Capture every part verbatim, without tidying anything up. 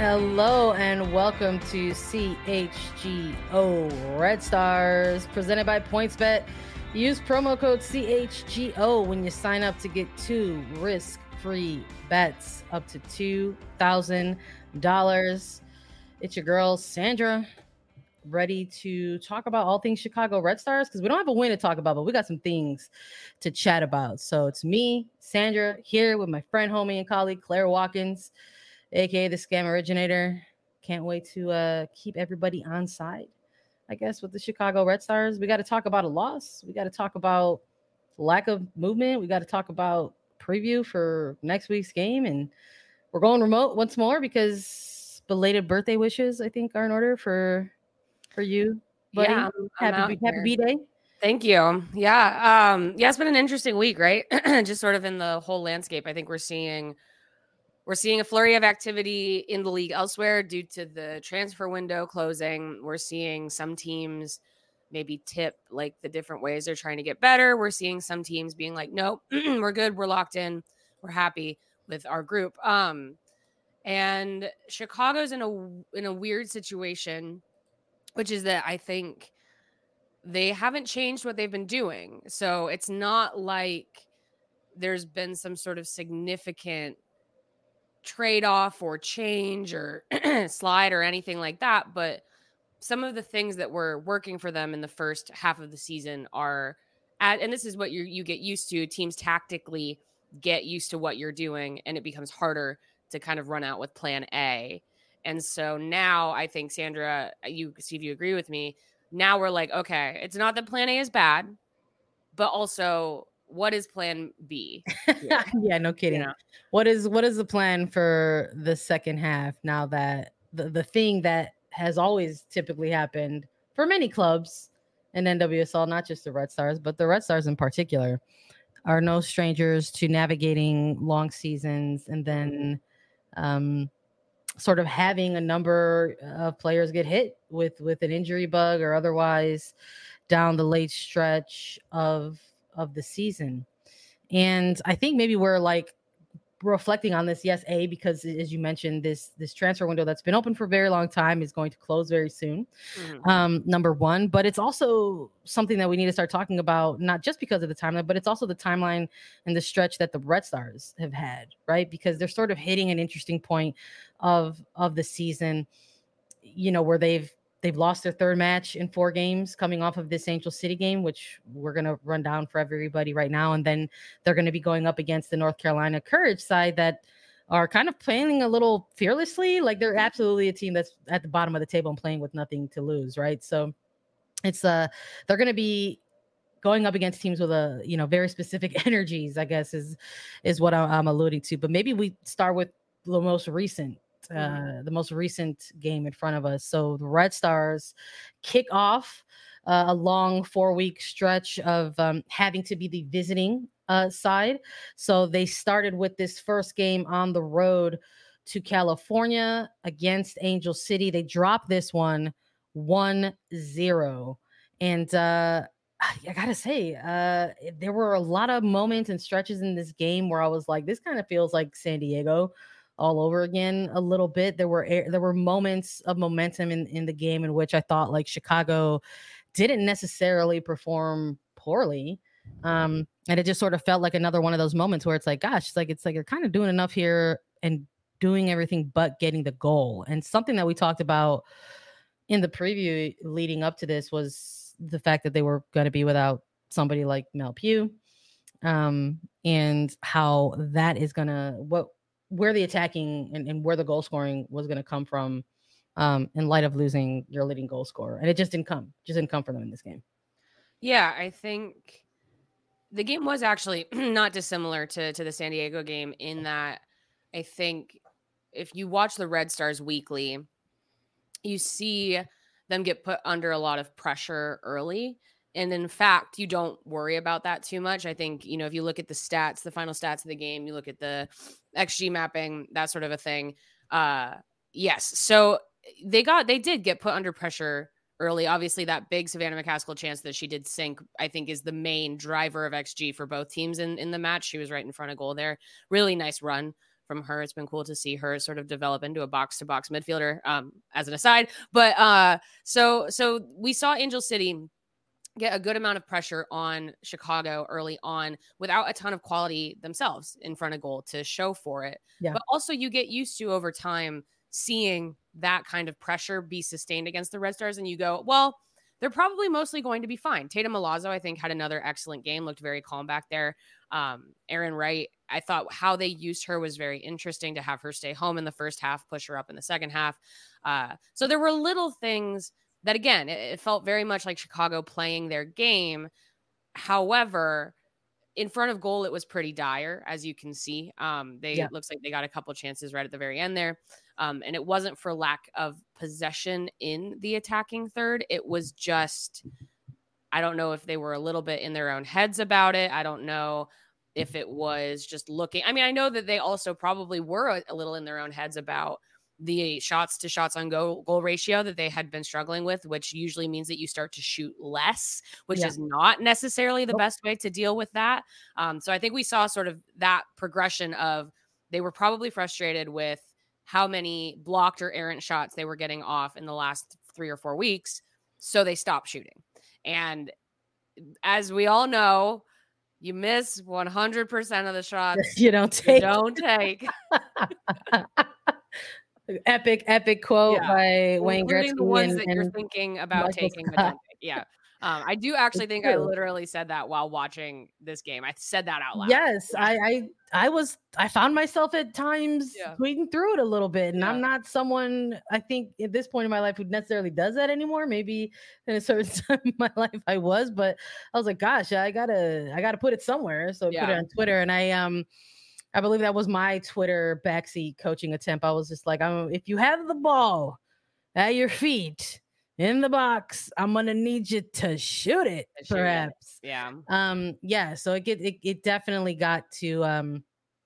Hello and welcome to C H G O Red Stars, presented by PointsBet. Use promo code C H G O when you sign up to get two risk-free bets up to two thousand dollars. It's your girl, Sandra, ready to talk about all things Chicago Red Stars because we don't have a win to talk about, but we got some things to chat about. So it's me, Sandra, here with my friend, homie, and colleague, Claire Watkins, aka the Scam Originator. Can't wait to uh, keep everybody on side, I guess, with the Chicago Red Stars. We got to talk about a loss. We got to talk about lack of movement. We got to talk about preview for next week's game. And we're going remote once more because belated birthday wishes, I think, are in order for for you, buddy. Yeah, I'm, I'm happy happy B-Day. Thank you. Yeah. Um, yeah, it's been an interesting week, right? Just sort of in the whole landscape. I think we're seeing we're seeing a flurry of activity in the league elsewhere due to the transfer window closing. We're seeing some teams maybe tip like the different ways they're trying to get better. We're seeing some teams being like, nope, we're good, we're locked in, we're happy with our group. Um, and Chicago's in a in a weird situation, which is that I think they haven't changed what they've been doing. So it's not like there's been some sort of significant trade-off or change or slide or anything like that. But some of the things that were working for them in the first half of the season are at, and this is what you you get used to. Teams tactically get used to what you're doing, and it becomes harder to kind of run out with plan A. And so now I think, Sandra, you see if you agree with me. Now we're like, okay, it's not that plan A is bad, but also what is plan B? Yeah, yeah, no kidding. You know? What is what is the plan for the second half now that the, the thing that has always typically happened for many clubs in N W S L, not just the Red Stars, but the Red Stars in particular, are no strangers to navigating long seasons and then um, sort of having a number of players get hit with, with an injury bug or otherwise down the late stretch of of the season. And I think maybe we're like reflecting on this, yes, A, because as you mentioned, this this transfer window that's been open for a very long time is going to close very soon. Mm-hmm. Um, number one, but it's also something that we need to start talking about, not just because of the timeline, but it's also the timeline and the stretch that the Red Stars have had, right? Because they're sort of hitting an interesting point of of the season, you know, where they've They've lost their third match in four games coming off of this Angel City game, which we're going to run down for everybody right now. And then they're going to be going up against the North Carolina Courage side that are kind of playing a little fearlessly. Like they're absolutely a team that's at the bottom of the table and playing with nothing to lose, right? So it's uh they're going to be going up against teams with a, you know, very specific energies, I guess is is what I'm alluding to. But maybe we start with the most recent Uh, the most recent game in front of us. So the Red Stars kick off uh, a long four-week stretch of um, having to be the visiting uh, side. So they started with this first game on the road to California against Angel City. They dropped this one one zero. And uh, I gotta say, uh, there were a lot of moments and stretches in this game where I was like, this kind of feels like San Diego all over again a little bit. There were there were moments of momentum in, in the game in which I thought like Chicago didn't necessarily perform poorly. Um, and it just sort of felt like another one of those moments where it's like, gosh, it's like it's like you're kind of doing enough here and doing everything but getting the goal. And something that we talked about in the preview leading up to this was the fact that they were going to be without somebody like Mel Pugh. Um, and how that is gonna what where the attacking and, and where the goal scoring was going to come from um, in light of losing your leading goal scorer. And it just didn't come, just didn't come for them in this game. Yeah, I think the game was actually not dissimilar to, to the San Diego game in that I think if you watch the Red Stars weekly, you see them get put under a lot of pressure early. And in fact, you don't worry about that too much. I think, you know, if you look at the stats, the final stats of the game, you look at the X G mapping, that sort of a thing. Uh, yes. So they got, they did get put under pressure early. Obviously that big Savannah McCaskill chance that she did sink, I think is the main driver of X G for both teams in, in the match. She was right in front of goal there. Really nice run from her. It's been cool to see her sort of develop into a box to box midfielder, um, as an aside. But uh, so so we saw Angel City get a good amount of pressure on Chicago early on without a ton of quality themselves in front of goal to show for it. Yeah. But also you get used to over time seeing that kind of pressure be sustained against the Red Stars, and you go, well, they're probably mostly going to be fine. Tatum Milazzo, I think, had another excellent game, looked very calm back there. Um, Aaron Wright, I thought how they used her was very interesting to have her stay home in the first half, push her up in the second half. Uh, so there were little things that, again, it, it felt very much like Chicago playing their game. However, in front of goal, it was pretty dire, as you can see. Um, they Yeah. it looks like they got a couple chances right at the very end there. Um, and it wasn't for lack of possession in the attacking third. It was just, I don't know if they were a little bit in their own heads about it. I don't know if it was just looking. I mean, I know that they also probably were a, a little in their own heads about the shots to shots on goal, goal ratio that they had been struggling with, which usually means that you start to shoot less, which Yeah. is not necessarily the Nope. best way to deal with that. Um, so I think we saw sort of that progression of they were probably frustrated with how many blocked or errant shots they were getting off in the last three or four weeks. So they stopped shooting. And as we all know, you miss one hundred percent of the shots You don't you take. don't take. Epic, epic quote Yeah. by Wayne Including the Gretzky ones and, that you're and thinking about Michael taking but Scott. don't take. Yeah. Um, I do actually It's think I true. literally said that while watching this game. I said that out loud. Yes, I, I I was I found myself at times Yeah. tweeting through it a little bit, and Yeah. I'm not someone I think at this point in my life who necessarily does that anymore. Maybe in a certain time in my life I was, but I was like, gosh, I gotta I gotta put it somewhere. So I put it Yeah. on Twitter, and I um I believe that was my Twitter backseat coaching attempt. I was just like, um, if you have the ball at your feet in the box, I'm gonna need you to shoot it, To shoot it. perhaps. Yeah. Um, yeah, so it get it, it definitely got to um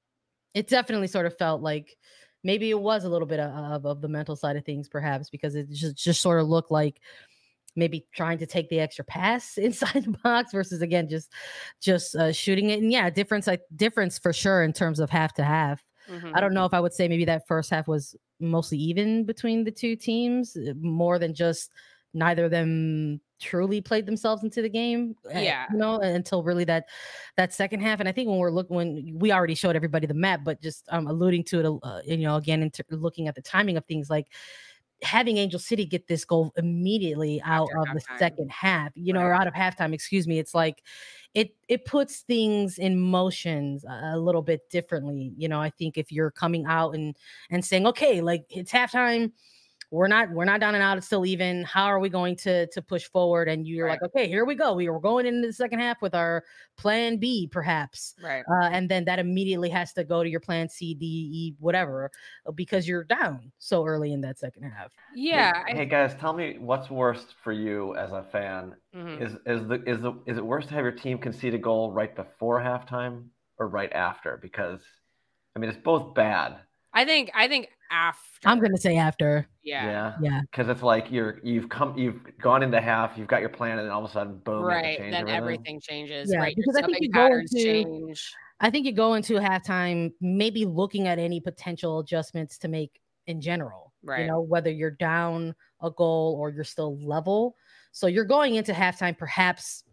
it definitely sort of felt like maybe it was a little bit of, of the mental side of things, perhaps, because it just just sort of looked like maybe trying to take the extra pass inside the box versus again just just uh, shooting it. And yeah, difference like difference for sure in terms of half to half. Mhm. I don't know if I would say maybe that first half was mostly even between the two teams, uh, more than just neither of them truly played themselves into the game. uh, Yeah. you know, until really that that second half. And I think when we're looking, when we already showed everybody the map, but just um, alluding to it, uh, you know, again, into looking at the timing of things, like having Angel City get this goal immediately out After of the halftime. second half, you know, or Right. out of halftime, excuse me. It's like it it puts things in motions a, a little bit differently. You know, I think if you're coming out and and saying, okay, like it's halftime, we're not we're not down and out, it's still even. How are we going to to push forward? And you're Right. like, okay, here we go. We were going into the second half with our plan B, perhaps. Right. Uh, and then that immediately has to go to your plan C, D, E, whatever, uh, because you're down so early in that second half. Yeah. Hey, I, hey guys, tell me what's worst for you as a fan. mhm. Is is the is the is it worse to have your team concede a goal right before halftime or right after? Because I mean, it's both bad. I think I think after. I'm gonna say after. Yeah. Yeah. Yeah. Because it's like you're you've come you've gone into half, you've got your plan, and then all of a sudden, boom, you have to Right. change Then everything. everything changes. Yeah, Right. Your because I think subbing you go patterns into- change. I think you go into halftime maybe looking at any potential adjustments to make in general. Right. You know, whether you're down a goal or you're still level. So you're going into halftime, perhaps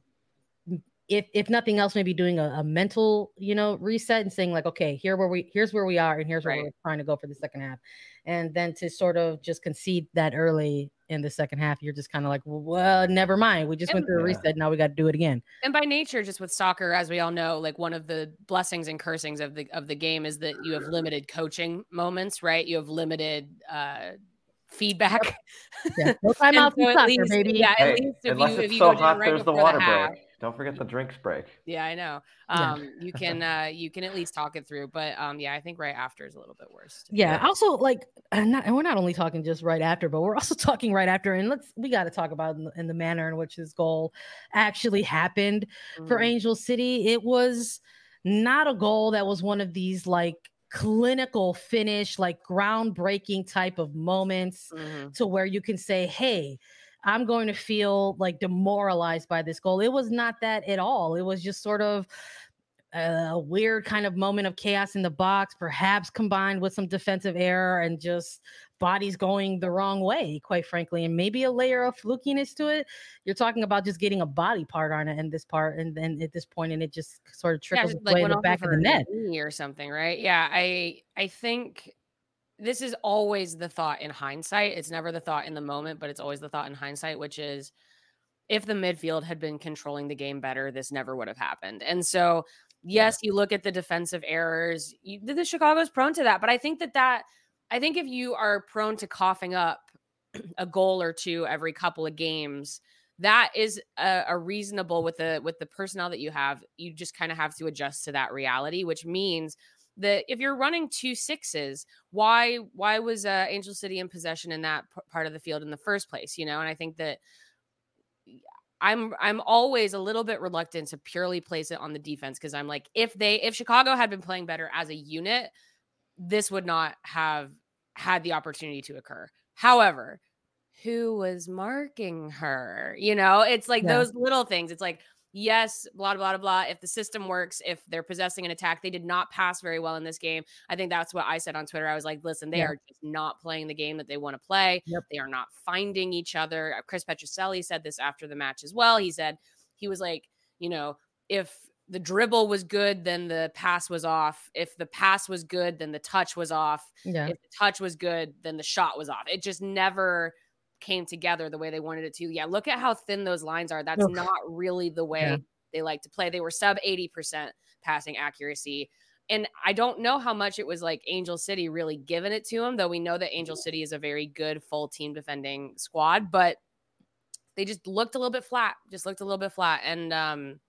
if if nothing else, maybe doing a, a mental, you know, reset and saying like, okay, here where we here's where we are, and here's where Right. we're trying to go for the second half. And then to sort of just concede that early in the second half, you're just kind of like, well, never mind. We just went And- through a Yeah. reset. Now we got to do it again. And by nature, just with soccer, as we all know, like one of the blessings and cursings of the of the game is that you have limited coaching moments, right? You have limited uh feedback. Yeah. No And timeouts so in at soccer, least, baby. yeah, at Hey, least if unless you it's if you so go down hot, right there's the before water the half, break. Don't forget the drinks break. yeah, I know. Yeah. Um, you can uh you can at least talk it through, but um, yeah, I think right after is a little bit worse. Yeah. Yeah. Also, like, and, not, and we're not only talking just right after, but we're also talking right after. And let's we got to talk about in the, in the manner in which this goal actually happened for Mhm. Angel City. It was not a goal that was one of these like clinical finish, like groundbreaking type of moments Mhm. to where you can say, hey, I'm going to feel like demoralized by this goal. It was not that at all. It was just sort of a weird kind of moment of chaos in the box, perhaps combined with some defensive error and just bodies going the wrong way, quite frankly, and maybe a layer of flukiness to it. You're talking about just getting a body part on it in this part, and then at this point, and it just sort of trickles yeah, its like way in went the off back of of the her net knee or something, right? Yeah, I I think this is always the thought in hindsight. It's never the thought in the moment, but it's always the thought in hindsight, which is if the midfield had been controlling the game better, this never would have happened. And so, yes, you look at the defensive errors. You, the Chicago's prone to that, but I think that that I think if you are prone to coughing up a goal or two every couple of games, that is a, a reasonable with the with the personnel that you have. You just kind of have to adjust to that reality, which means that if you're running two sixes, why why was uh, Angel City in possession in that p- part of the field in the first place? You know, and I think that I'm I'm always a little bit reluctant to purely place it on the defense because I'm like, if they if Chicago had been playing better as a unit, this would not have had the opportunity to occur. However, who was marking her? You know, it's like Yeah. those little things. It's like, yes, blah, blah, blah, blah. If the system works, if they're possessing an attack, they did not pass very well in this game. I think that's what I said on Twitter. I was like, listen, they Yeah. are just not playing the game that they want to play. Yep. They are not finding each other. Chris Petroselli said this after the match as well. He said, he was like, you know, if the dribble was good, then the pass was off. If the pass was good, then the touch was off. Yeah. If the touch was good, then the shot was off. It just never came together the way they wanted it to. Yeah, look at how thin those lines are. That's Oof. not really the way Yeah. they like to play. They were sub eighty percent passing accuracy. And I don't know how much it was like Angel City really giving it to them, though we know that Angel City is a very good full team defending squad, but they just looked a little bit flat, just looked a little bit flat. And um,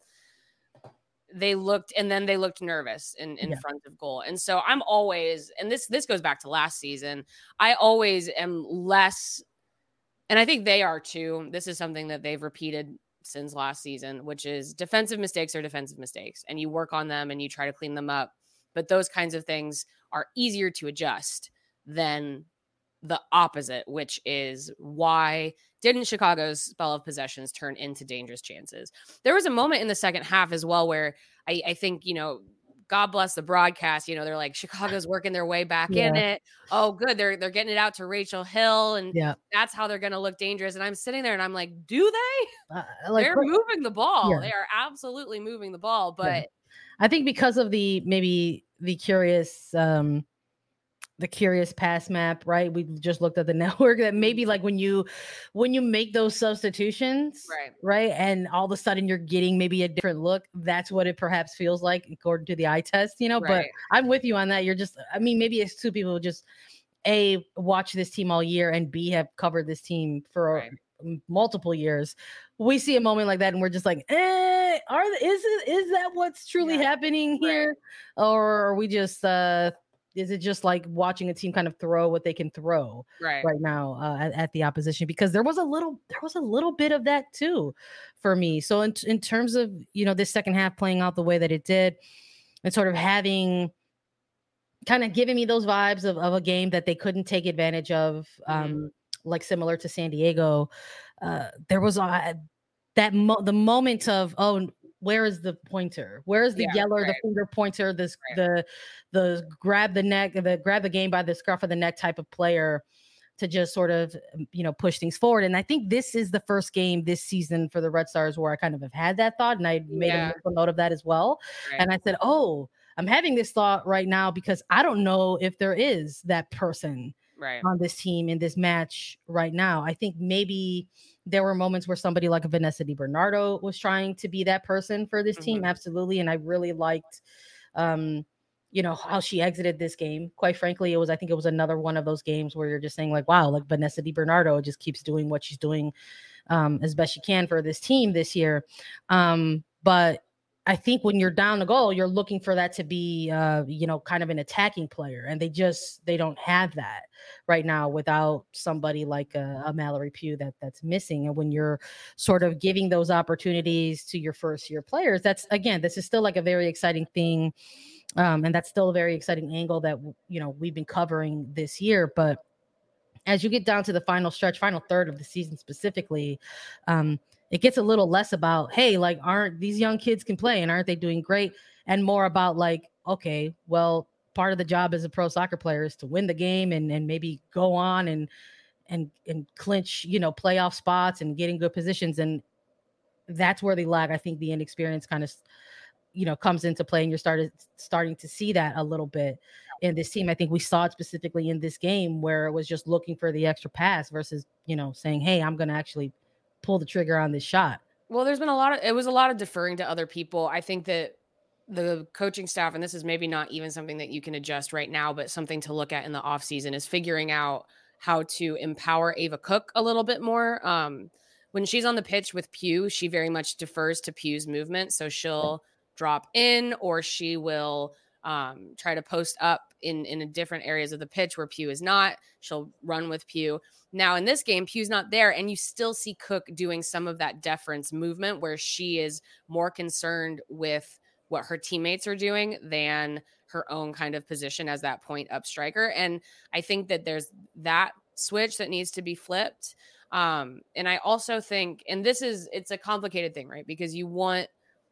they looked, and then they looked nervous in, in Yeah. front of goal. And so I'm always, and this, this goes back to last season. I always am less, and I think they are too. This is something that they've repeated since last season, which is defensive mistakes are defensive mistakes, and you work on them and you try to clean them up. But those kinds of things are easier to adjust than the opposite, which is why didn't Chicago's spell of possessions turn into dangerous chances? There was a moment in the second half as well where I, I think, you know, God bless the broadcast, you know, they're like, Chicago's working their way back Yeah. in it. Oh, good. They're they're getting it out to Rachel Hill, and Yeah. that's how they're going to look dangerous. And I'm sitting there and I'm like, do they? Uh, like They're moving the ball. Yeah. They are absolutely moving the ball. But Yeah. I think because of the maybe the curious um the curious pass map, right? We just looked at the network that maybe like when you when you make those substitutions, Right. right, and all of a sudden you're getting maybe a different look, that's what it perhaps feels like according to the eye test, you know. But Right. I'm with you on that. You're just, I mean, maybe it's two people who just A, watch this team all year, and B, have covered this team for Right. m- multiple years. We see a moment like that and we're just like, eh, are is it is that what's truly Yeah. happening Right. here? Or are we just uh is it just like watching a team kind of throw what they can throw Right. right now uh, at, at the opposition? Because there was a little there was a little bit of that too for me. So in, in terms of, you know, this second half playing out the way that it did and sort of having kind of giving me those vibes of, of a game that they couldn't take advantage of, um, Mhm. like similar to San Diego. Uh, there was uh, that mo- the moment of, oh, where is the pointer? Where is the Yeah, yeller, the right. finger pointer, this Right. the the grab the neck, the grab the game by the scruff of the neck type of player to just sort of, you know, push things forward. And I think this is the first game this season for the Red Stars where I kind of have had that thought, and I made Yeah. a mental note of that as well. Right. And I said, oh, I'm having this thought right now because I don't know if there is that person Right. on this team in this match right now. I think maybe there were moments where somebody like Vanessa DiBernardo was trying to be that person for this team. Mhm. Absolutely. And I really liked, um, you know, how she exited this game. Quite frankly, it was, I think it was another one of those games where you're just saying like, wow, like Vanessa DiBernardo just keeps doing what she's doing um, as best she can for this team this year. Um, but I think when you're down the goal, you're looking for that to be, uh, you know, kind of an attacking player. And they just, they don't have that right now without somebody like a, a Mallory Pugh that that's missing. And when you're sort of giving those opportunities to your first year players, that's, again, this is still like a very exciting thing. Um, and that's still a very exciting angle that, you know, we've been covering this year. But as you get down to the final stretch, final third of the season specifically, um, it gets a little less about, hey, like, aren't these young kids can play and aren't they doing great? and more about like, okay, well, part of the job as a pro soccer player is to win the game and and maybe go on and and and clinch, you know, playoff spots and getting good positions. And that's where they lag. I think the inexperience kind of, you know, comes into play, and you're started starting to see that a little bit in this team. I think we saw it specifically in this game where it was just looking for the extra pass versus, you know, saying, hey, I'm going to actually pull the trigger on this shot. Well, there's been a lot of, it was a lot of deferring to other people. I think that the coaching staff, and this is maybe not even something that you can adjust right now, but something to look at in the offseason, is figuring out how to empower Ava Cook a little bit more. Um, when she's on the pitch with Pugh, she very much defers to Pugh's movement. So she'll drop in, or she will um, try to post up in, in different areas of the pitch where Pugh is not. She'll run with Pugh. Now in this game, Pugh's not there, and you still see Cook doing some of that deference movement where she is more concerned with what her teammates are doing than her own kind of position as that point up striker. And I think that there's that switch that needs to be flipped. Um, and I also think, and this is, it's a complicated thing, right? Because you want,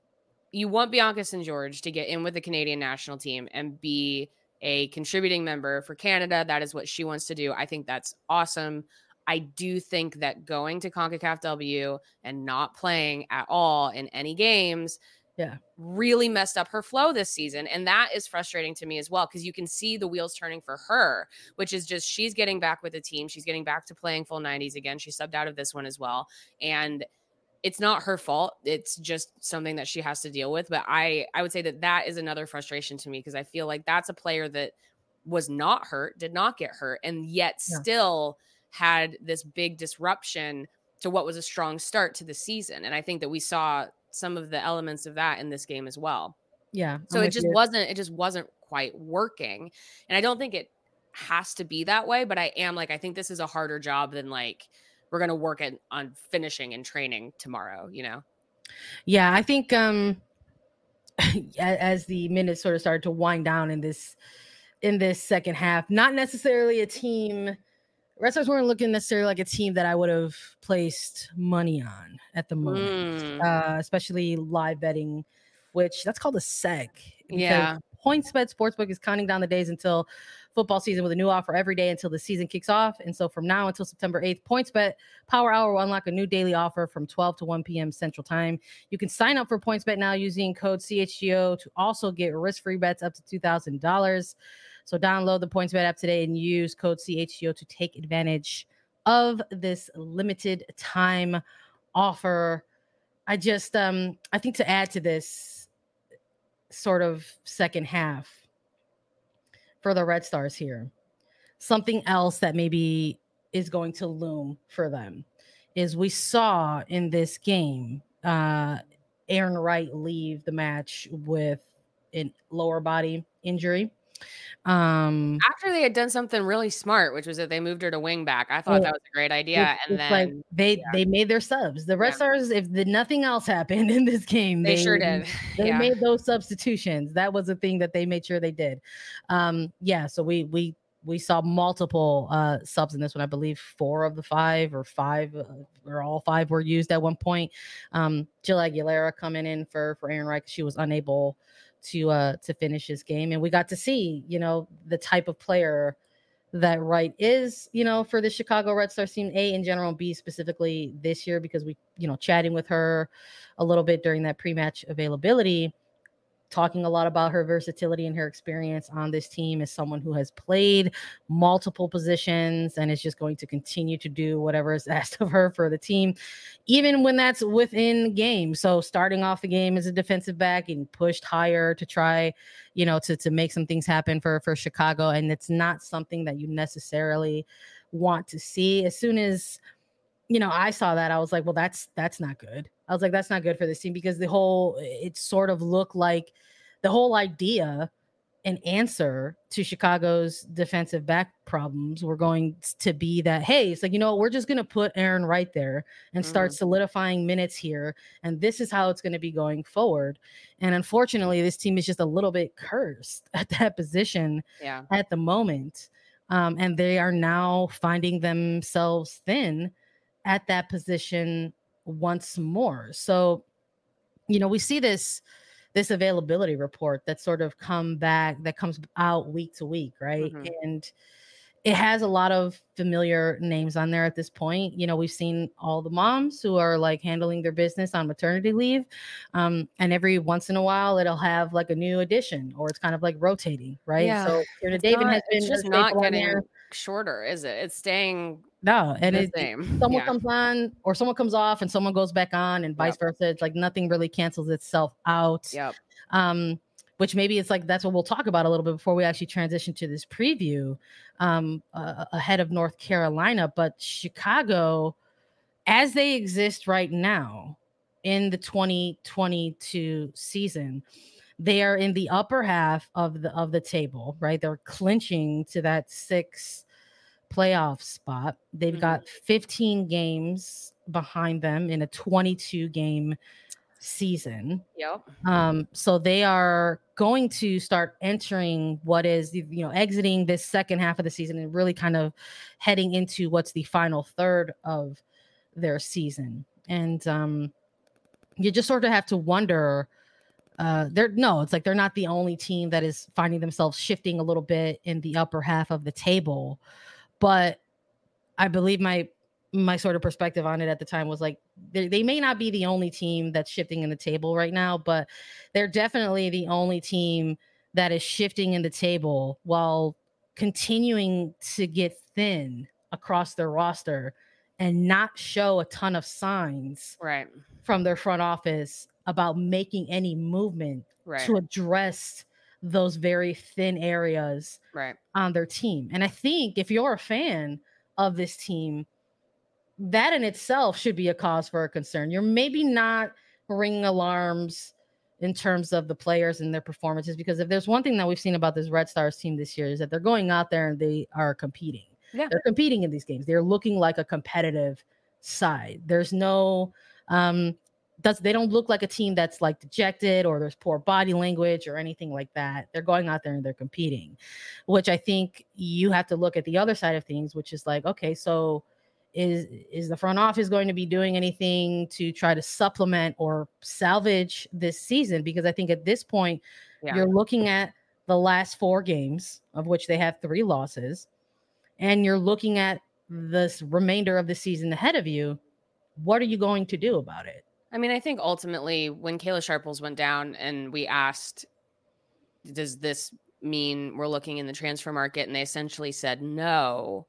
you want Bianca Saint George to get in with the Canadian national team and be a contributing member for Canada. That is what she wants to do. I think that's awesome. I do think that going to CONCACAF W and not playing at all in any games yeah, really messed up her flow this season. And that is frustrating to me as well, because you can see the wheels turning for her, which is just, she's getting back with the team. She's getting back to playing full nineties again. She subbed out of this one as well. And it's not her fault. It's just something that she has to deal with. But I, I would say that that is another frustration to me, because I feel like that's a player that was not hurt, did not get hurt, and yet yeah. still had this big disruption to what was a strong start to the season. And I think that we saw some of the elements of that in this game as well. Yeah. So it just you. wasn't, it just wasn't quite working. And I don't think it has to be that way, but I am like, I think this is a harder job than like, we're going to work at, on finishing and training tomorrow, you know? Yeah. I think, um, as the minutes sort of started to wind down in this, in this second half, not necessarily a team, Red Stars weren't looking necessarily like a team that I would have placed money on at the moment, mm. uh, especially live betting, which that's called a seg. Yeah. PointsBet Sportsbook is counting down the days until football season with a new offer every day until the season kicks off. And so from now until September eighth, PointsBet Power Hour will unlock a new daily offer from twelve to one p.m. Central Time. You can sign up for PointsBet now using code C H G O to also get risk-free bets up to two thousand dollars. So download the PointsBet app today and use code C H G O to take advantage of this limited time offer. I just, um, I think to add to this sort of second half for the Red Stars here, something else that maybe is going to loom for them is we saw in this game, uh, Aaron Wright leave the match with a lower body injury. Um, after they had done something really smart, which was that they moved her to wing back. I thought well, that was a great idea. It, and then like they yeah. they made their subs. The Red yeah. Stars, if the, nothing else happened in this game, they, they sure did. They yeah. made those substitutions. That was a thing that they made sure they did. Um, yeah. So we we we saw multiple uh, subs in this one. I believe four of the five or five uh, or all five were used at one point. Um, Jill Aguilera coming in for for Aaron Wright. She was unable to uh to finish his game, and we got to see, you know, the type of player that Wright is, you know, for the Chicago Red Stars team, A in general, and B specifically this year, because we, you know, chatting with her a little bit during that pre-match availability, talking a lot about her versatility and her experience on this team as someone who has played multiple positions and is just going to continue to do whatever is asked of her for the team, even when that's within game. So starting off the game as a defensive back and pushed higher to try, you know, to, to make some things happen for, for Chicago. And it's not something that you necessarily want to see. As soon as, you know, I saw that, I was like, well, that's, that's not good. I was like, that's not good for this team, because the whole, it sort of looked like the whole idea and answer to Chicago's defensive back problems were going to be that, hey, it's like, you know, we're just going to put Aaron right there and start mm-hmm. solidifying minutes here. And this is how it's going to be going forward. And unfortunately, this team is just a little bit cursed at that position yeah. at the moment. Um, and they are now finding themselves thin at that position once more. So, you know, we see this this availability report that sort of come back that comes out week to week, right? Mhm. And it has a lot of familiar names on there at this point. You know, we've seen all the moms who are like handling their business on maternity leave. Um, and every once in a while it'll have like a new addition, or it's kind of like rotating, right? Yeah. So Kierna It's David not has been it's a just not staple on getting there. shorter, is it? It's staying No, and the it, it- same. someone Yeah. comes on or someone comes off and someone goes back on, and vice Yep. versa. It's like nothing really cancels itself out. Yep. Um, which maybe it's like that's what we'll talk about a little bit before we actually transition to this preview um, uh, ahead of North Carolina. But Chicago, as they exist right now in the twenty twenty-two season, they are in the upper half of the of the table, right? They're clinching to that six playoff spot. They've Mhm. got fifteen games behind them in a twenty-two game season. Yep. Um, so they are going to start entering what is, the- you know, exiting this second half of the season and really kind of heading into what's the final third of their season. And um, you just sort of have to wonder. Uh, they're no, it's like they're not the only team that is finding themselves shifting a little bit in the upper half of the table. But I believe my my sort of perspective on it at the time was like they, they may not be the only team that's shifting in the table right now, but they're definitely the only team that is shifting in the table while continuing to get thin across their roster and not show a ton of signs Right. from their front office about making any movement Right. to address those very thin areas Right. on their team. And I think if you're a fan of this team, that in itself should be a cause for a concern. You're maybe not ringing alarms in terms of the players and their performances, because if there's one thing that we've seen about this Red Stars team this year is that they're going out there and they are competing. Yeah. They're competing in these games. They're looking like a competitive side. There's no um does they don't look like a team that's like dejected or there's poor body language or anything like that. They're going out there and they're competing, which I think you have to look at the other side of things, which is like, okay, so is is the front office going to be doing anything to try to supplement or salvage this season? Because I think at this point, Yeah. you're looking at the last four games, of which they have three losses, and you're looking at this remainder of the season ahead of you. What are you going to do about it? I mean, I think ultimately when Kayla Sharples went down and we asked, does this mean we're looking in the transfer market? And they essentially said no.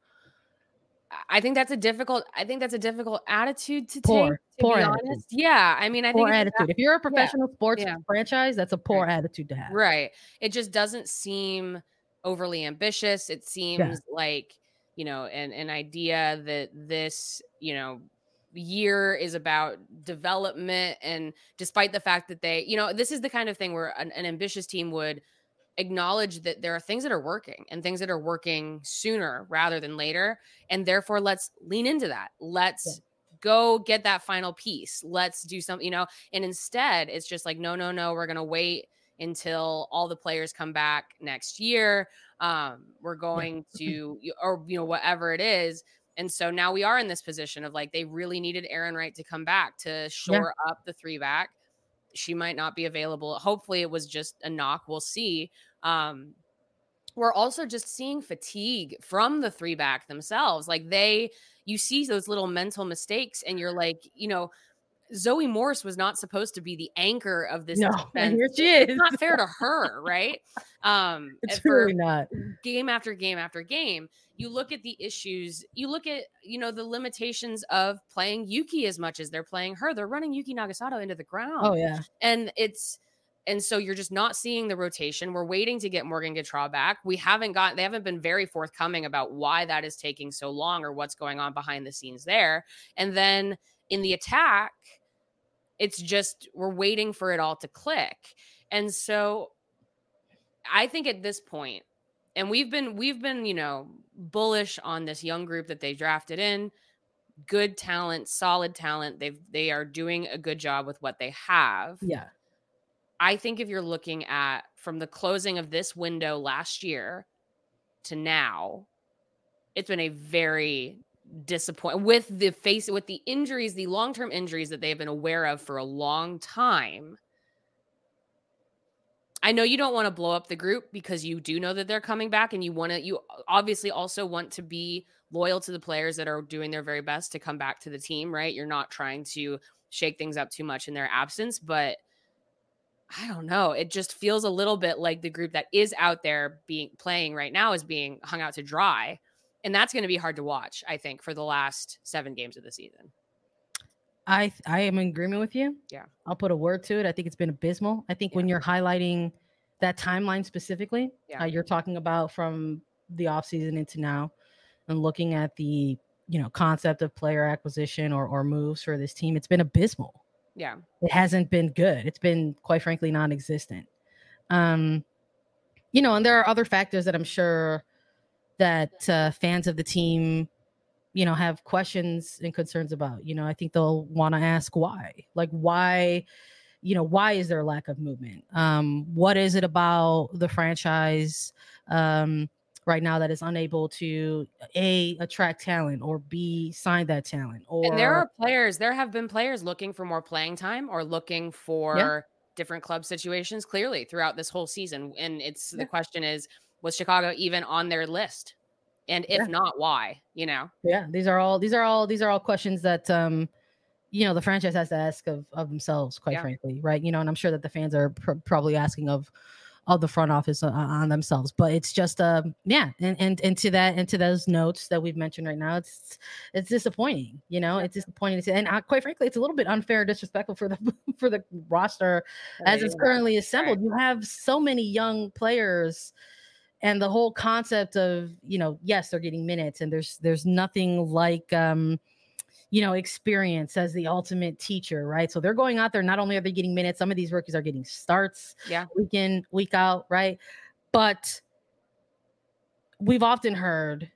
I think that's a difficult, I think that's a difficult attitude to Poor, take, to poor be attitude. honest. Yeah. I mean, I Poor think it's attitude. If you're a professional sports yeah. franchise, that's a poor Right. attitude to have. Right. It just doesn't seem overly ambitious. It seems like, you know, an, an idea that this, you know, year is about development. And despite the fact that they, you know, this is the kind of thing where an, an ambitious team would acknowledge that there are things that are working and things that are working sooner rather than later. And therefore, let's lean into that. Let's Yeah. go get that final piece. Let's do something, you know, and instead it's just like, no, no, no, we're going to wait until all the players come back next year. Um, we're going to, or, you know, whatever it is. And so now we are in this position of like, they really needed Aaron Wright to come back to shore yeah. up the three back. She might not be available. Hopefully it was just a knock. We'll see. Um, we're also just seeing fatigue from the three back themselves. Like they, you see those little mental mistakes and you're like, you know, Zoe Morse was not supposed to be the anchor of this no, defense. And here she is. It's not fair to her, right? Um, it's really not. Game after game after game, you look at the issues. You look at, you know, the limitations of playing Yuki as much as they're playing her. They're running Yuki Nagasato into the ground. Oh yeah, and it's and so you're just not seeing the rotation. We're waiting to get Morgan Gautrat back. We haven't got. They haven't been very forthcoming about why that is taking so long or what's going on behind the scenes there. And then in the attack, it's just we're waiting for it all to click. And so I think at this point, and we've been we've been, you know, bullish on this young group that they drafted in. Good talent, solid talent. They've they are doing a good job with what they have. Yeah. I think if you're looking at from the closing of this window last year to now, it's been a very disappointing with the face with the injuries, the long-term injuries that they've been aware of for a long time. I know you don't want to blow up the group because you do know that they're coming back, and you want to, you obviously also want to be loyal to the players that are doing their very best to come back to the team, right? You're not trying to shake things up too much in their absence, but I don't know. It just feels a little bit like the group that is out there being playing right now is being hung out to dry. And that's going to be hard to watch, I think, for the last seven games of the season. I I am in agreement with you. Yeah. I'll put a word to it. I think it's been abysmal. I think Yeah. when you're highlighting that timeline specifically, Yeah. uh, you're talking about from the offseason into now and looking at the, you know, concept of player acquisition or, or moves for this team, it's been abysmal. Yeah. It hasn't been good. It's been, quite frankly, non-existent. Um, you know, and there are other factors that I'm sure that uh, fans of the team, you know, have questions and concerns about. You know, I think they'll want to ask why. Like, why, you know, why is there a lack of movement? Um, what is it about the franchise um, right now that is unable to, A, attract talent, or B, sign that talent? Or And there are players, there have been players looking for more playing time or looking for Yeah. different club situations clearly throughout this whole season. And it's Yeah. the question is, was Chicago even on their list? And if Yeah. not, why? You know? Yeah, these are all these are all these are all questions that um you know the franchise has to ask of of themselves, quite Yeah. frankly, right? You know, and I'm sure that the fans are pr- probably asking of of the front office uh, on themselves. But it's just um yeah, and and and to that and to those notes that we've mentioned right now, it's it's disappointing. You know, Yeah. it's disappointing, to, and uh, quite frankly, it's a little bit unfair, disrespectful for the for the roster as it's Yeah. currently assembled. Right. You have so many young players. And the whole concept of, you know, yes, they're getting minutes, and there's there's nothing like, um, you know, experience as the ultimate teacher, right? So they're going out there. Not only are they getting minutes, some of these rookies are getting starts, Yeah. week in, week out, right? But we've often heard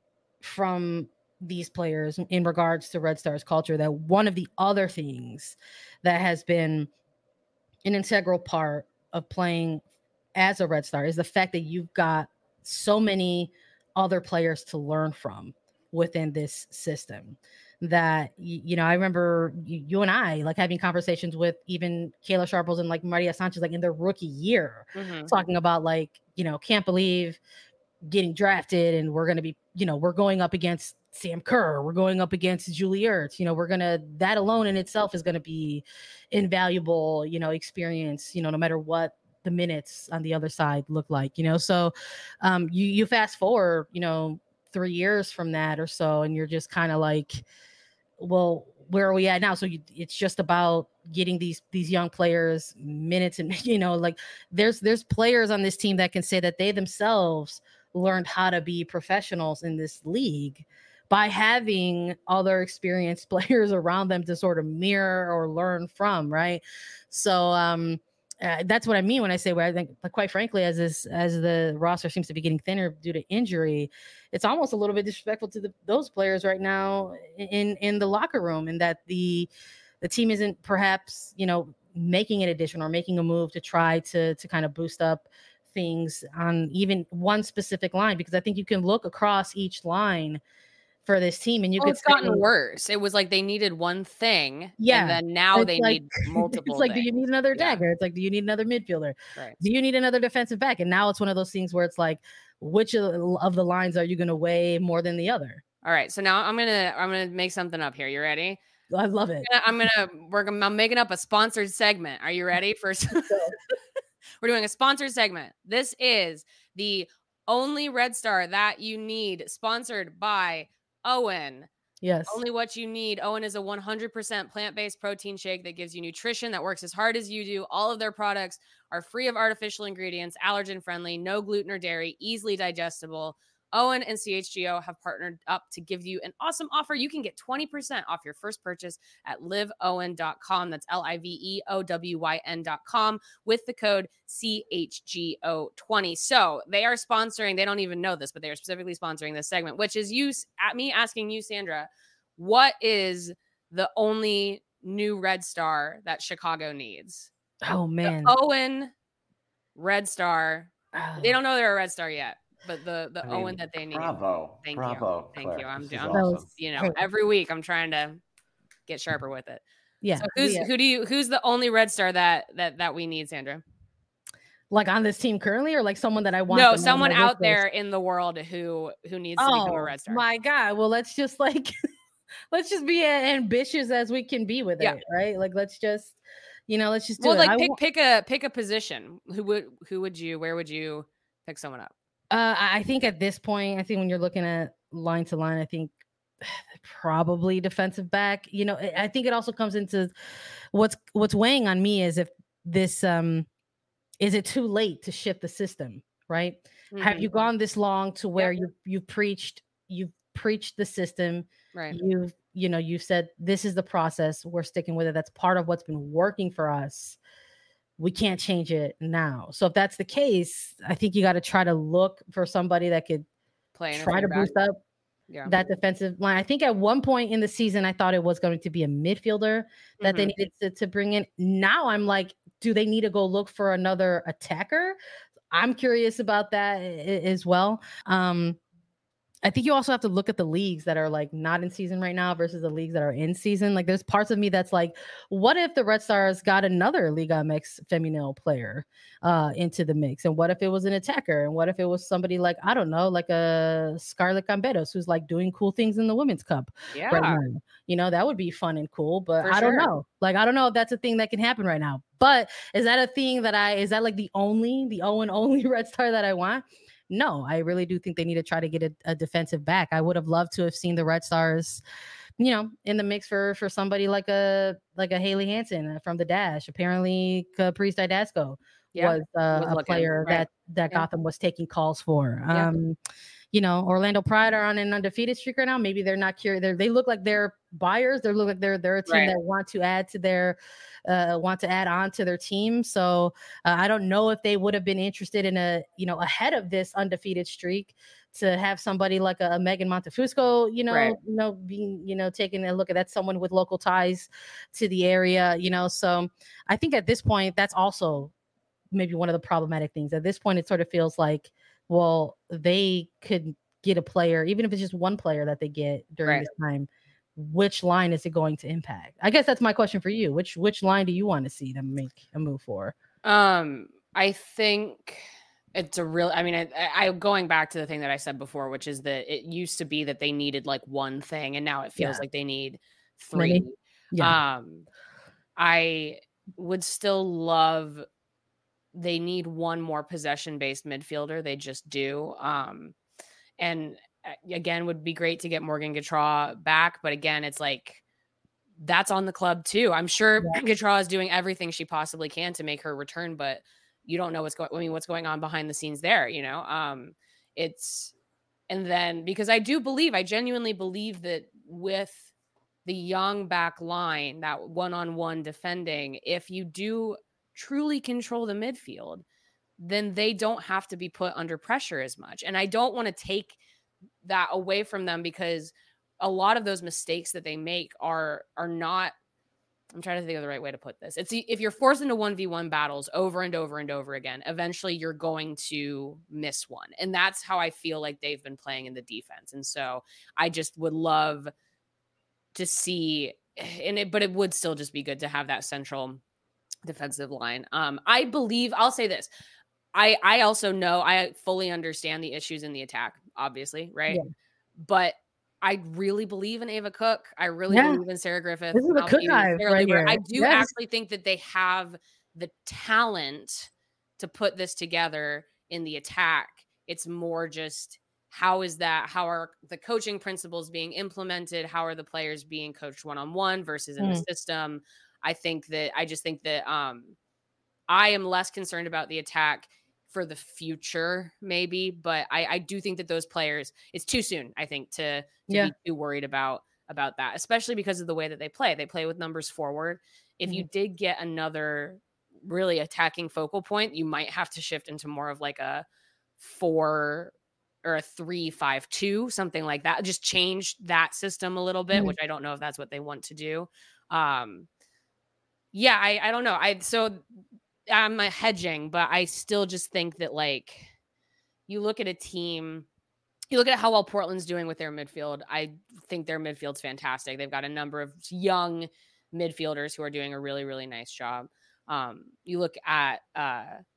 from these players in regards to Red Stars culture that one of the other things that has been an integral part of playing as a Red Star is the fact that you've got so many other players to learn from within this system that, you know, I remember you, you and I like having conversations with even Kayla Sharples and like Maria Sanchez, like in their rookie year, Mm-hmm. talking about like, you know, can't believe getting drafted and we're going to be, you know, we're going up against Sam Kerr, we're going up against Julie Ertz, you know, we're going to, that alone in itself is going to be invaluable, you know, experience, you know, no matter what the minutes on the other side look like, you know. So um you you fast forward, you know, three years from that or so, and you're just kind of like, well, where are we at now? So you, it's just about getting these these young players minutes, and you know, like there's there's players on this team that can say that they themselves learned how to be professionals in this league by having other experienced players around them to sort of mirror or learn from, right? So um Uh, that's what I mean when I say, where I think, like, quite frankly, as this as the roster seems to be getting thinner due to injury, it's almost a little bit disrespectful to the, those players right now in in the locker room, and that the the team isn't perhaps, you know, making an addition or making a move to try to to kind of boost up things on even one specific line, because I think you can look across each line for this team and you Well, could it's gotten say, worse. It was like they needed one thing, yeah, and then now it's they like, need multiple. It's like, things. do you need another Yeah. dagger? It's like, do you need another midfielder? Right. Do you need another defensive back? And now it's one of those things where it's like, which of, of the lines are you going to weigh more than the other? All right. So now I'm gonna I'm gonna make something up here. You ready? I love it. I'm gonna, I'm gonna we're gonna, I'm making up a sponsored segment. Are you ready? First, we're doing a sponsored segment. This is the only Red Star that you need, sponsored by Owen. Yes. Only what you need. Owen is a one hundred percent plant-based protein shake that gives you nutrition that works as hard as you do. All of their products are free of artificial ingredients, allergen-friendly, no gluten or dairy, easily digestible. Owen and C H G O have partnered up to give you an awesome offer. You can get twenty percent off your first purchase at live owen dot com. That's L I V E O W Y N dot com with the code C H G O twenty. So they are sponsoring, they don't even know this, but they are specifically sponsoring this segment, which is you, at me asking you, Sandra, what is the only new Red Star that Chicago needs? Oh, man. The Owen Red Star. Oh. They don't know they're a Red Star yet. But the the I mean, Owen that they need. Bravo. Thank bravo, you. Thank Claire. you. I'm, This is I'm awesome. you know, every week I'm trying to get sharper with it. Yeah. So who's yeah. who do you who's the only Red Star that that that we need, Sandra? Like on this team currently, or like someone that I want? No, someone out there in the world who who needs to become a Oh Red Star. my God. Well, let's just like let's just be as ambitious as we can be with Yeah. it, right? Like let's just, you know, let's just do Well, it. like I pick wa- pick a pick a position. Who would who would you where would you pick someone up? uh, I I think at this point, I think when you're looking at line to line, I think probably defensive back. You know, I I think it also comes into what's what's weighing on me is if this um is it too late to shift the system, right? Have Mhm. you gone this long to where Yep. you you've preached you've preached the system, Right. you've you know you've said this is the process, we're sticking with it, that's part of what's been working for us, we can't change it now. So if that's the case, I think you got to try to look for somebody that could Play in a try three to back. boost up Yeah. that defensive line. I think at one point in the season, I thought it was going to be a midfielder that they Mhm. needed to, to bring in. Now I'm like, do they need to go look for another attacker? I'm curious about that a- as well. Um, I think you also have to look at the leagues that are like not in season right now versus the leagues that are in season. Like there's parts of me that's like, what if the Red Stars got another Liga M X Femenil player uh, into the mix? And what if it was an attacker? And what if it was somebody like, I don't know, like a Scarlett Gamberos who's like doing cool things in the Women's Cup right Yeah, now? You know, that would be fun and cool, but for I don't sure. know. Like, I don't know if that's a thing that can happen right now. But is that a thing that I, is that like the only, the O and only Red Star that I want? No, I really do think they need to try to get a, a defensive back. I would have loved to have seen the Red Stars, you know, in the mix for for somebody like a like a Haley Hansen from the Dash. Apparently, Caprice Didasco Yeah. was uh, Was a looking, player right. that that Yeah. Gotham was taking calls for. Yeah. Um, you know, Orlando Pride are on an undefeated streak right now. Maybe they're not curious. They're, they look like they're buyers. They look like they're they're a team Right. that want to add to their uh, want to add on to their team. So uh, I don't know if they would have been interested in a you know ahead of this undefeated streak to have somebody like a, a Megan Montefusco, you know, Right. you know, being you know taking a look at that someone with local ties to the area, you know. So I think at this point that's also maybe one of the problematic things. At this point, it sort of feels like, well, they could get a player, even if it's just one player that they get during Right. this time. Which line is it going to impact? I guess that's my question for you. Which which line do you want to see them make a move for? Um, I think it's a real. I mean, I, I going back to the thing that I said before, which is that it used to be that they needed like one thing, and now it feels Yeah. like they need three. Many? Yeah. Um, I would still love. They need one more possession based midfielder. They just do. Um, and uh, again, would be great to get Morgan Gautrat back, but again, it's like that's on the club too. I'm sure Yeah. Gautrat is doing everything she possibly can to make her return, but you don't know what's going. I mean, what's going on behind the scenes there? You know, um, it's and then because I do believe, I genuinely believe that with the young back line, that one-on-one defending, if you do truly control the midfield, then they don't have to be put under pressure as much. And I don't want to take that away from them because a lot of those mistakes that they make are are not I'm trying to think of the right way to put this. It's if you're forced into one v one battles over and over and over again, eventually you're going to miss one. And that's how I feel like they've been playing in the defense. And so I just would love to see and it but it would still just be good to have that central defensive line. Um I believe I'll say this. I I also know I fully understand the issues in the attack, obviously, right? Yeah. But I really believe in Ava Cook. I really Yeah. believe in Sarah Griffith. This is a Cook hive right here. I do Yes. actually think that they have the talent to put this together in the attack. It's more just how is that? How are the coaching principles being implemented? How are the players being coached one-on-one versus in Mm. the system? I think that I just think that um I am less concerned about the attack for the future, maybe, but I, I do think that those players, it's too soon, I think, to, to Yeah. be too worried about about that, especially because of the way that they play. They play with numbers forward. If you did get another really attacking focal point, you might have to shift into more of like a four or a three, five, two, something like that. Just change that system a little bit, Mhm. which I don't know if that's what they want to do. Um, yeah, I, I don't know. I so I'm a hedging, but I still just think that like you look at a team, you look at how well Portland's doing with their midfield. I think their midfield's fantastic. They've got a number of young midfielders who are doing a really, really nice job. Um, you look at uh,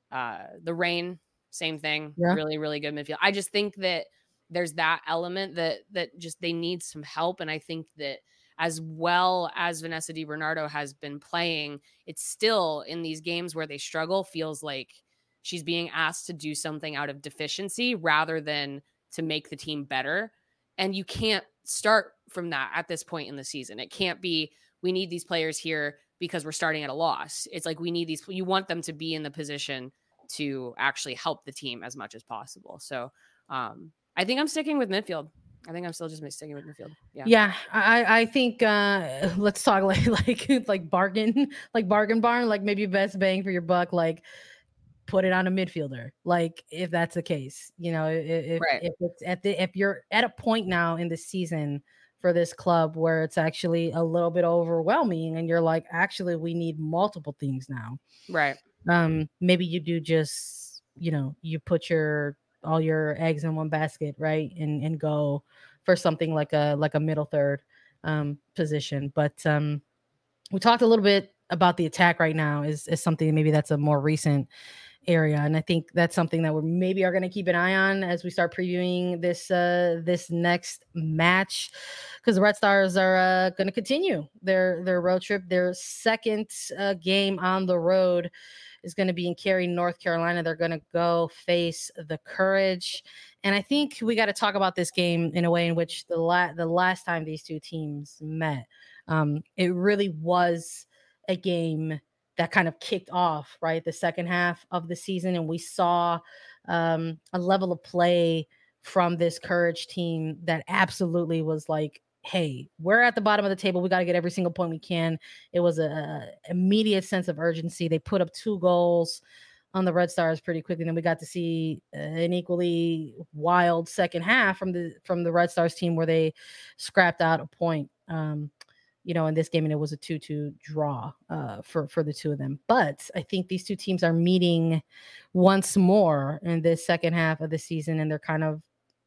Uh, the Reign, same thing. Yeah. Really, really good midfield. I just think that there's that element that that just they need some help. And I think that as well as Vanessa DiBernardo has been playing, it's still in these games where they struggle, feels like she's being asked to do something out of deficiency rather than to make the team better. And you can't start from that at this point in the season. It can't be, we need these players here because we're starting at a loss. It's like, we need these, you want them to be in the position to actually help the team as much as possible. So um, I think I'm sticking with midfield. I think I'm still just sticking with midfield. Yeah. Yeah. I, I think, uh, let's talk like, like, like bargain, like bargain barn, like maybe best bang for your buck, like put it on a midfielder. Like if that's the case, you know, if, right. if it's at the, if you're at a point now in the season for this club where it's actually a little bit overwhelming and you're like, actually, we need multiple things now. Right. Um, maybe you do just, you know, you put your, all your eggs in one basket, right? And, and go for something like a, like a middle third um, position. But um, we talked a little bit about the attack right now is, is something maybe that's a more recent area. And I think that's something that we maybe are going to keep an eye on as we start previewing this, uh, this next match, because the Red Stars are uh, going to continue their, their road trip. Their second uh, game on the road is going to be in Cary, North Carolina. They're going to go face the Courage. And I think we got to talk about this game in a way in which the la- the last time these two teams met, um, it really was a game that kind of kicked off, right, the second half of the season. And we saw um, a level of play from this Courage team that absolutely was like, hey, we're at the bottom of the table. We got to get every single point we can. It was a, a immediate sense of urgency. They put up two goals on the Red Stars pretty quickly. And then we got to see an equally wild second half from the from the Red Stars team where they scrapped out a point, um, you know, in this game, and it was a two two draw uh, for, for the two of them. But I think these two teams are meeting once more in this second half of the season, and they're kind of,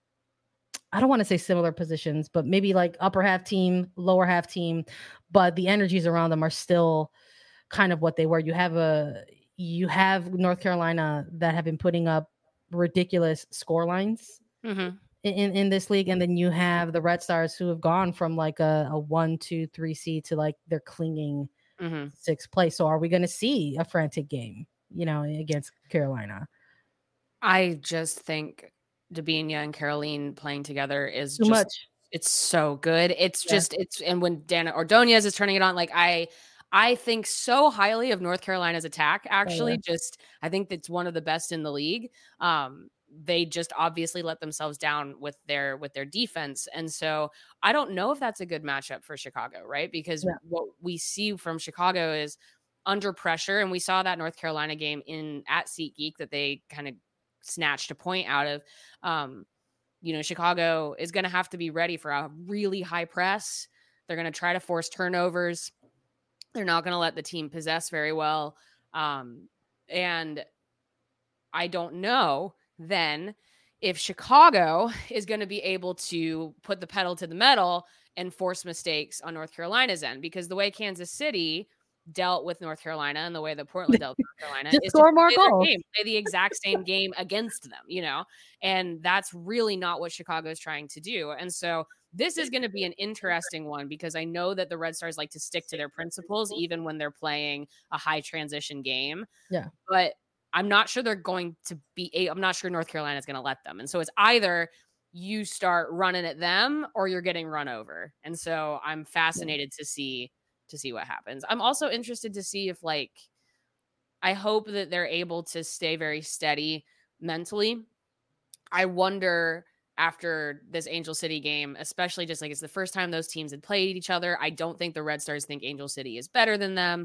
I don't want to say similar positions, but maybe like upper half team, lower half team, but the energies around them are still kind of what they were. You have a, you have North Carolina that have been putting up ridiculous score lines mm-hmm. in, in this league. And then you have the Red Stars who have gone from like a, a one, two, three seed to like they're clinging mm-hmm. sixth place. So are we going to see a frantic game, you know, against Carolina? I just think Debinha and Caroline playing together is too just much. It's so good. It's yeah. just it's and when Dana Ordonez is turning it on, like I I think so highly of North Carolina's attack. Actually, oh, yeah. just I think it's one of the best in the league. Um, they just obviously let themselves down with their with their defense, and so I don't know if that's a good matchup for Chicago, right? Because yeah. what we see from Chicago is under pressure, and we saw that North Carolina game in at SeatGeek that they kind of snatched a point out of. Um, you know, Chicago is going to have to be ready for a really high press. They're going to try to force turnovers. They're not going to let the team possess very well. Um, and I don't know then if Chicago is going to be able to put the pedal to the metal and force mistakes on North Carolina's end, because the way Kansas City dealt with North Carolina and the way that Portland dealt with North Carolina Just is score to more play goals. Game, play the exact same game against them, you know, and that's really not what Chicago is trying to do. And so this is going to be an interesting one, because I know that the Red Stars like to stick to their principles, even when they're playing a high transition game. Yeah. But I'm not sure they're going to be, I'm not sure North Carolina is going to let them. And so it's either you start running at them or you're getting run over. And so I'm fascinated yeah. to see to see what happens. I'm also interested to see if, like, I hope that they're able to stay very steady mentally. I wonder after this Angel City game, especially just like it's the first time those teams had played each other. I don't think the Red Stars think Angel City is better than them.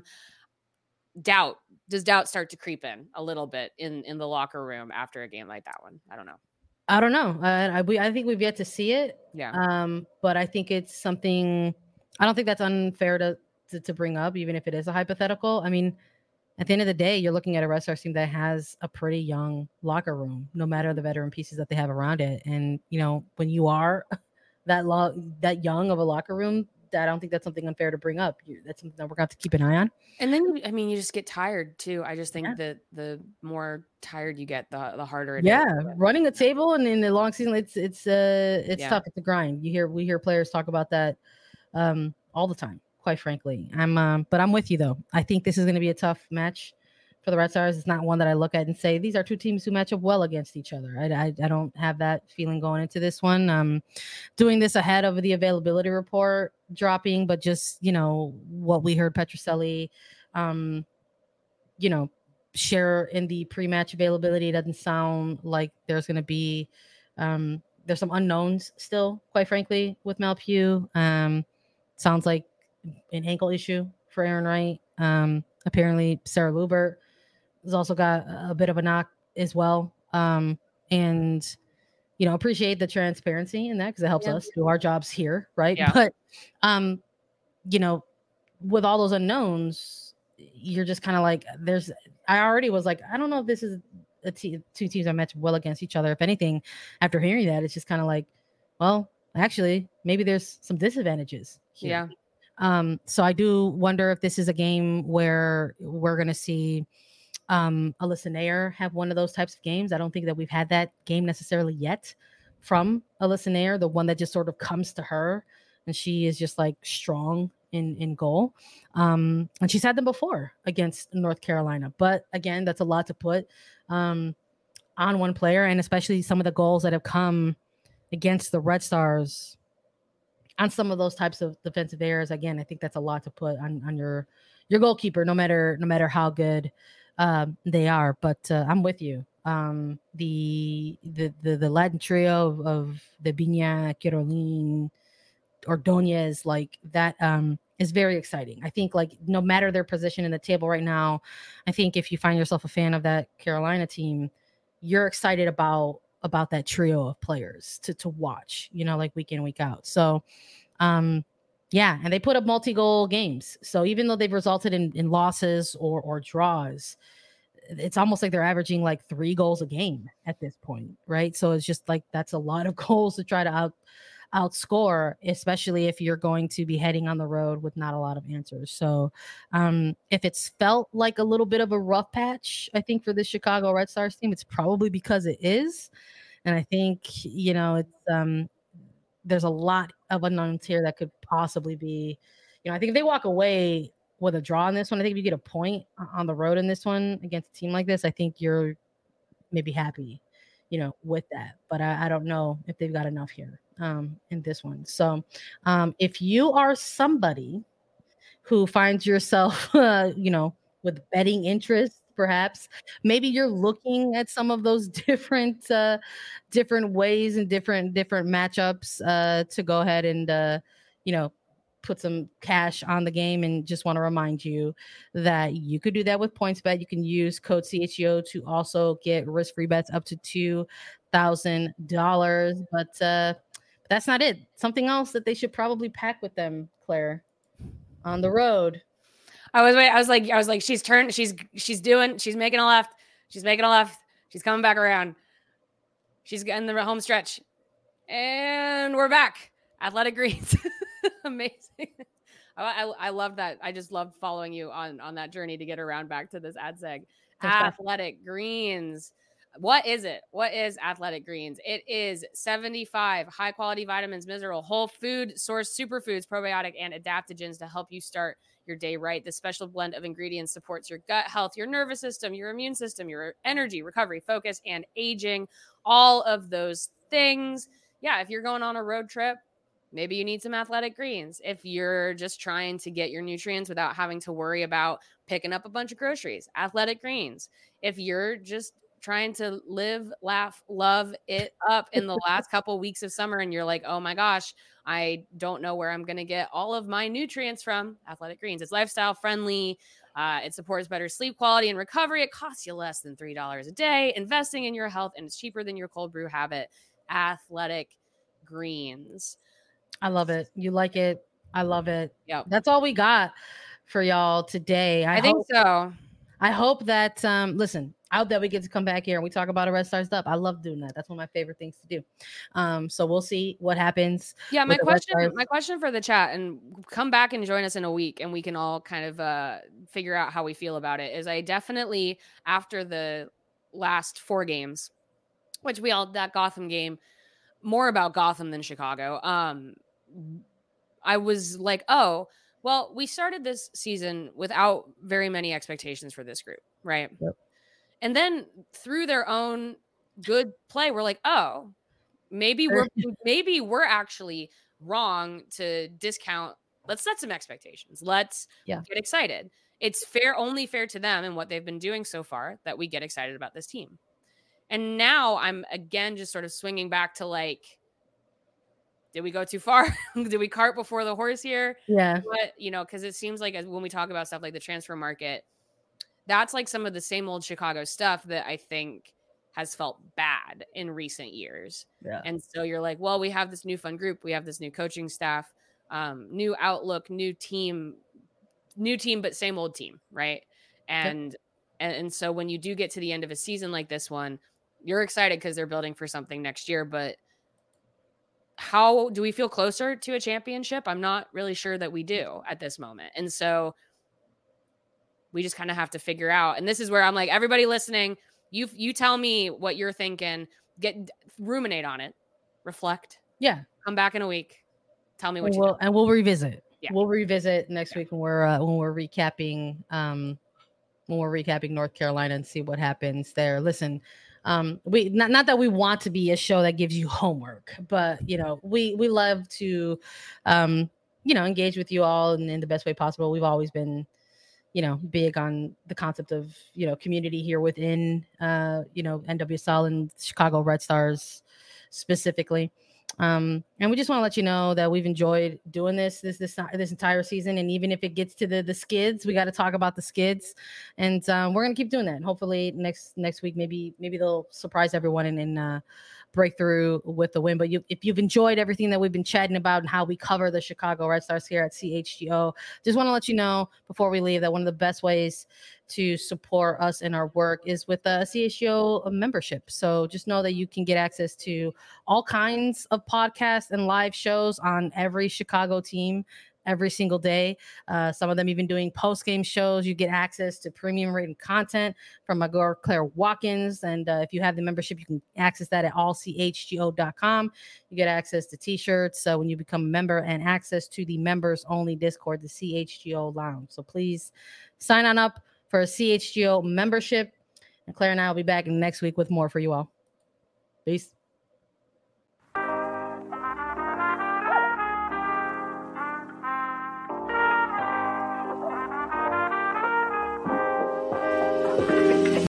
Doubt. Does doubt start to creep in a little bit in, in the locker room after a game like that one? I don't know. I don't know. Uh, I, we, I think we've yet to see it. Yeah. Um, but I think it's something, I don't think that's unfair to, To, to bring up, even if it is a hypothetical. I mean, at the end of the day, you're looking at a Red Stars team that has a pretty young locker room, no matter the veteran pieces that they have around it. And, you know, when you are that long, that young of a locker room, I don't think that's something unfair to bring up. You, that's something that we're going to have to keep an eye on. And then, I mean, you just get tired too. I just think Yeah. that the more tired you get, the the harder it yeah. is. Yeah, running a table and in the long season, it's it's uh it's Yeah. tough. It's a grind. You hear we hear players talk about that um all the time. Quite frankly, I'm um, but I'm with you though. I think this is going to be a tough match for the Red Stars. It's not one that I look at and say these are two teams who match up well against each other. I, I, I don't have that feeling going into this one. Um, doing this ahead of the availability report dropping, but just, you know, what we heard Petroselli, um, you know, share in the pre-match availability. It doesn't sound like there's going to be, um, there's some unknowns still, quite frankly, with Malpew. Um, sounds like an ankle issue for Aaron Wright. Um, apparently Sarah Lubert has also got a bit of a knock as well. Um, and, you know, appreciate the transparency in that because it helps Yeah. us do our jobs here. Right. Yeah. But, um, you know, with all those unknowns, you're just kind of like, there's, I already was like, I don't know if this is a te- two teams that match well against each other. If anything, after hearing that, it's just kind of like, well, actually, maybe there's some disadvantages here. Yeah. Um, so I do wonder if this is a game where we're going to see um, Alyssa Nair have one of those types of games. I don't think that we've had that game necessarily yet from Alyssa Nair, the one that just sort of comes to her and she is just like strong in, in goal. Um, and she's had them before against North Carolina. But again, that's a lot to put um, on one player, and especially some of the goals that have come against the Red Stars on some of those types of defensive errors. Again, I think that's a lot to put on, on your your goalkeeper, no matter no matter how good um, they are. But uh, I'm with you. Um, the, the the the Latin trio of, of the Viña, Caroline, Ordonez, like that um, is very exciting. I think like no matter their position in the table right now, I think if you find yourself a fan of that Carolina team, you're excited about about that trio of players to to watch, you know, like week in, week out. So um yeah, and they put up multi-goal games. So even though they've resulted in, in losses or or draws, it's almost like they're averaging like three goals a game at this point, right? So it's just like that's a lot of goals to try to out outscore, especially if you're going to be heading on the road with not a lot of answers. So um, if it's felt like a little bit of a rough patch, I think for the Chicago Red Stars team, it's probably because it is. And I think, you know, it's um, there's a lot of unknowns here that could possibly be, you know, I think if they walk away with a draw in this one, I think if you get a point on the road in this one against a team like this, I think you're maybe happy, you know, with that. But I, I don't know if they've got enough here um, in this one. So um, if you are somebody who finds yourself, uh, you know, with betting interest, perhaps maybe you're looking at some of those different, uh, different ways and different, different matchups uh, to go ahead and, uh, you know, put some cash on the game, and just want to remind you that you could do that with PointsBet. You can use code C H E O to also get risk-free bets up to two thousand dollars. But uh, that's not it. Something else that they should probably pack with them, Claire, on the road. I was wait. I was like, I was like, she's turned. She's she's doing. She's making a left. She's making a left. She's coming back around. She's getting the home stretch, and we're back. Athletic Greens. Amazing. I, I, I love that. I just loved following you on, on that journey to get around back to this ad seg. Athletic Greens. What is it? What is Athletic Greens? It is seventy-five high quality vitamins, mineral, whole food source superfoods, probiotic, and adaptogens to help you start your day right. This special blend of ingredients supports your gut health, your nervous system, your immune system, your energy, recovery, focus, and aging. All of those things. Yeah, if you're going on a road trip, maybe you need some Athletic Greens. If you're just trying to get your nutrients without having to worry about picking up a bunch of groceries, Athletic Greens. If you're just trying to live, laugh, love it up in the last couple weeks of summer and you're like, oh my gosh, I don't know where I'm going to get all of my nutrients from, Athletic Greens. It's lifestyle friendly. Uh, it supports better sleep quality and recovery. It costs you less than three dollars a day, investing in your health, and it's cheaper than your cold brew habit. Athletic Greens. I love it. You like it. I love it. Yeah. That's all we got for y'all today. I, I think hope, so. I hope that, um, listen, out that we get to come back here and we talk about a Red Stars dub. I love doing that. That's one of my favorite things to do. Um, so we'll see what happens. Yeah, my question, my question for the chat, and come back and join us in a week, and we can all kind of uh, figure out how we feel about it. Is I definitely, after the last four games, which we all that Gotham game, more about Gotham than Chicago. Um, I was like, oh, well, we started this season without very many expectations for this group, right? Yep. And then through their own good play, we're like, oh, maybe we're maybe we're actually wrong to discount. Let's set some expectations. Let's yeah. get excited. It's fair, only fair to them and what they've been doing so far that we get excited about this team. And now I'm again just sort of swinging back to like, did we go too far? Did we cart before the horse here? Yeah. But, you know, because it seems like as, when we talk about stuff like the transfer market, that's like some of the same old Chicago stuff that I think has felt bad in recent years. Yeah. And so you're like, well, we have this new fun group. We have this new coaching staff, um, new outlook, new team, new team, but same old team. Right. And, yep. and, and so when you do get to the end of a season like this one, you're excited because they're building for something next year, but how do we feel closer to a championship? I'm not really sure that we do at this moment. And so we just kind of have to figure out, and this is where I'm like, everybody listening, you, you tell me what you're thinking, get ruminate on it, reflect. Yeah. Come back in a week. Tell me what and you we'll, think. And we'll revisit. Yeah. We'll revisit next yeah. week when we're, uh, when we're recapping, um, when we're recapping North Carolina and see what happens there. Listen, Um, we not, not that we want to be a show that gives you homework, but you know, we, we love to, um, you know, engage with you all in, in the best way possible. We've always been, you know, big on the concept of, you know, community here within, uh, you know, N W S L and Chicago Red Stars specifically. Um, and we just want to let you know that we've enjoyed doing this, this, this, this entire season. And even if it gets to the, the skids, we got to talk about the skids, and, um, we're going to keep doing that. And hopefully next, next week, maybe, maybe they'll surprise everyone and, and, uh, break through with the win. But you, if you've enjoyed everything that we've been chatting about and how we cover the Chicago Red Stars here at C H G O, just want to let you know before we leave that one of the best ways to support us in our work is with a C H G O membership. So just know that you can get access to all kinds of podcasts and live shows on every Chicago team every single day. Uh, some of them even doing post-game shows. You get access to premium written content from my girl Claire Watkins. And uh, if you have the membership, you can access that at all c h g o dot com. You get access to t-shirts uh, when you become a member, and access to the members only Discord, the C H G O Lounge. So please sign on up for a C H G O membership. And Claire and I will be back next week with more for you all. Peace.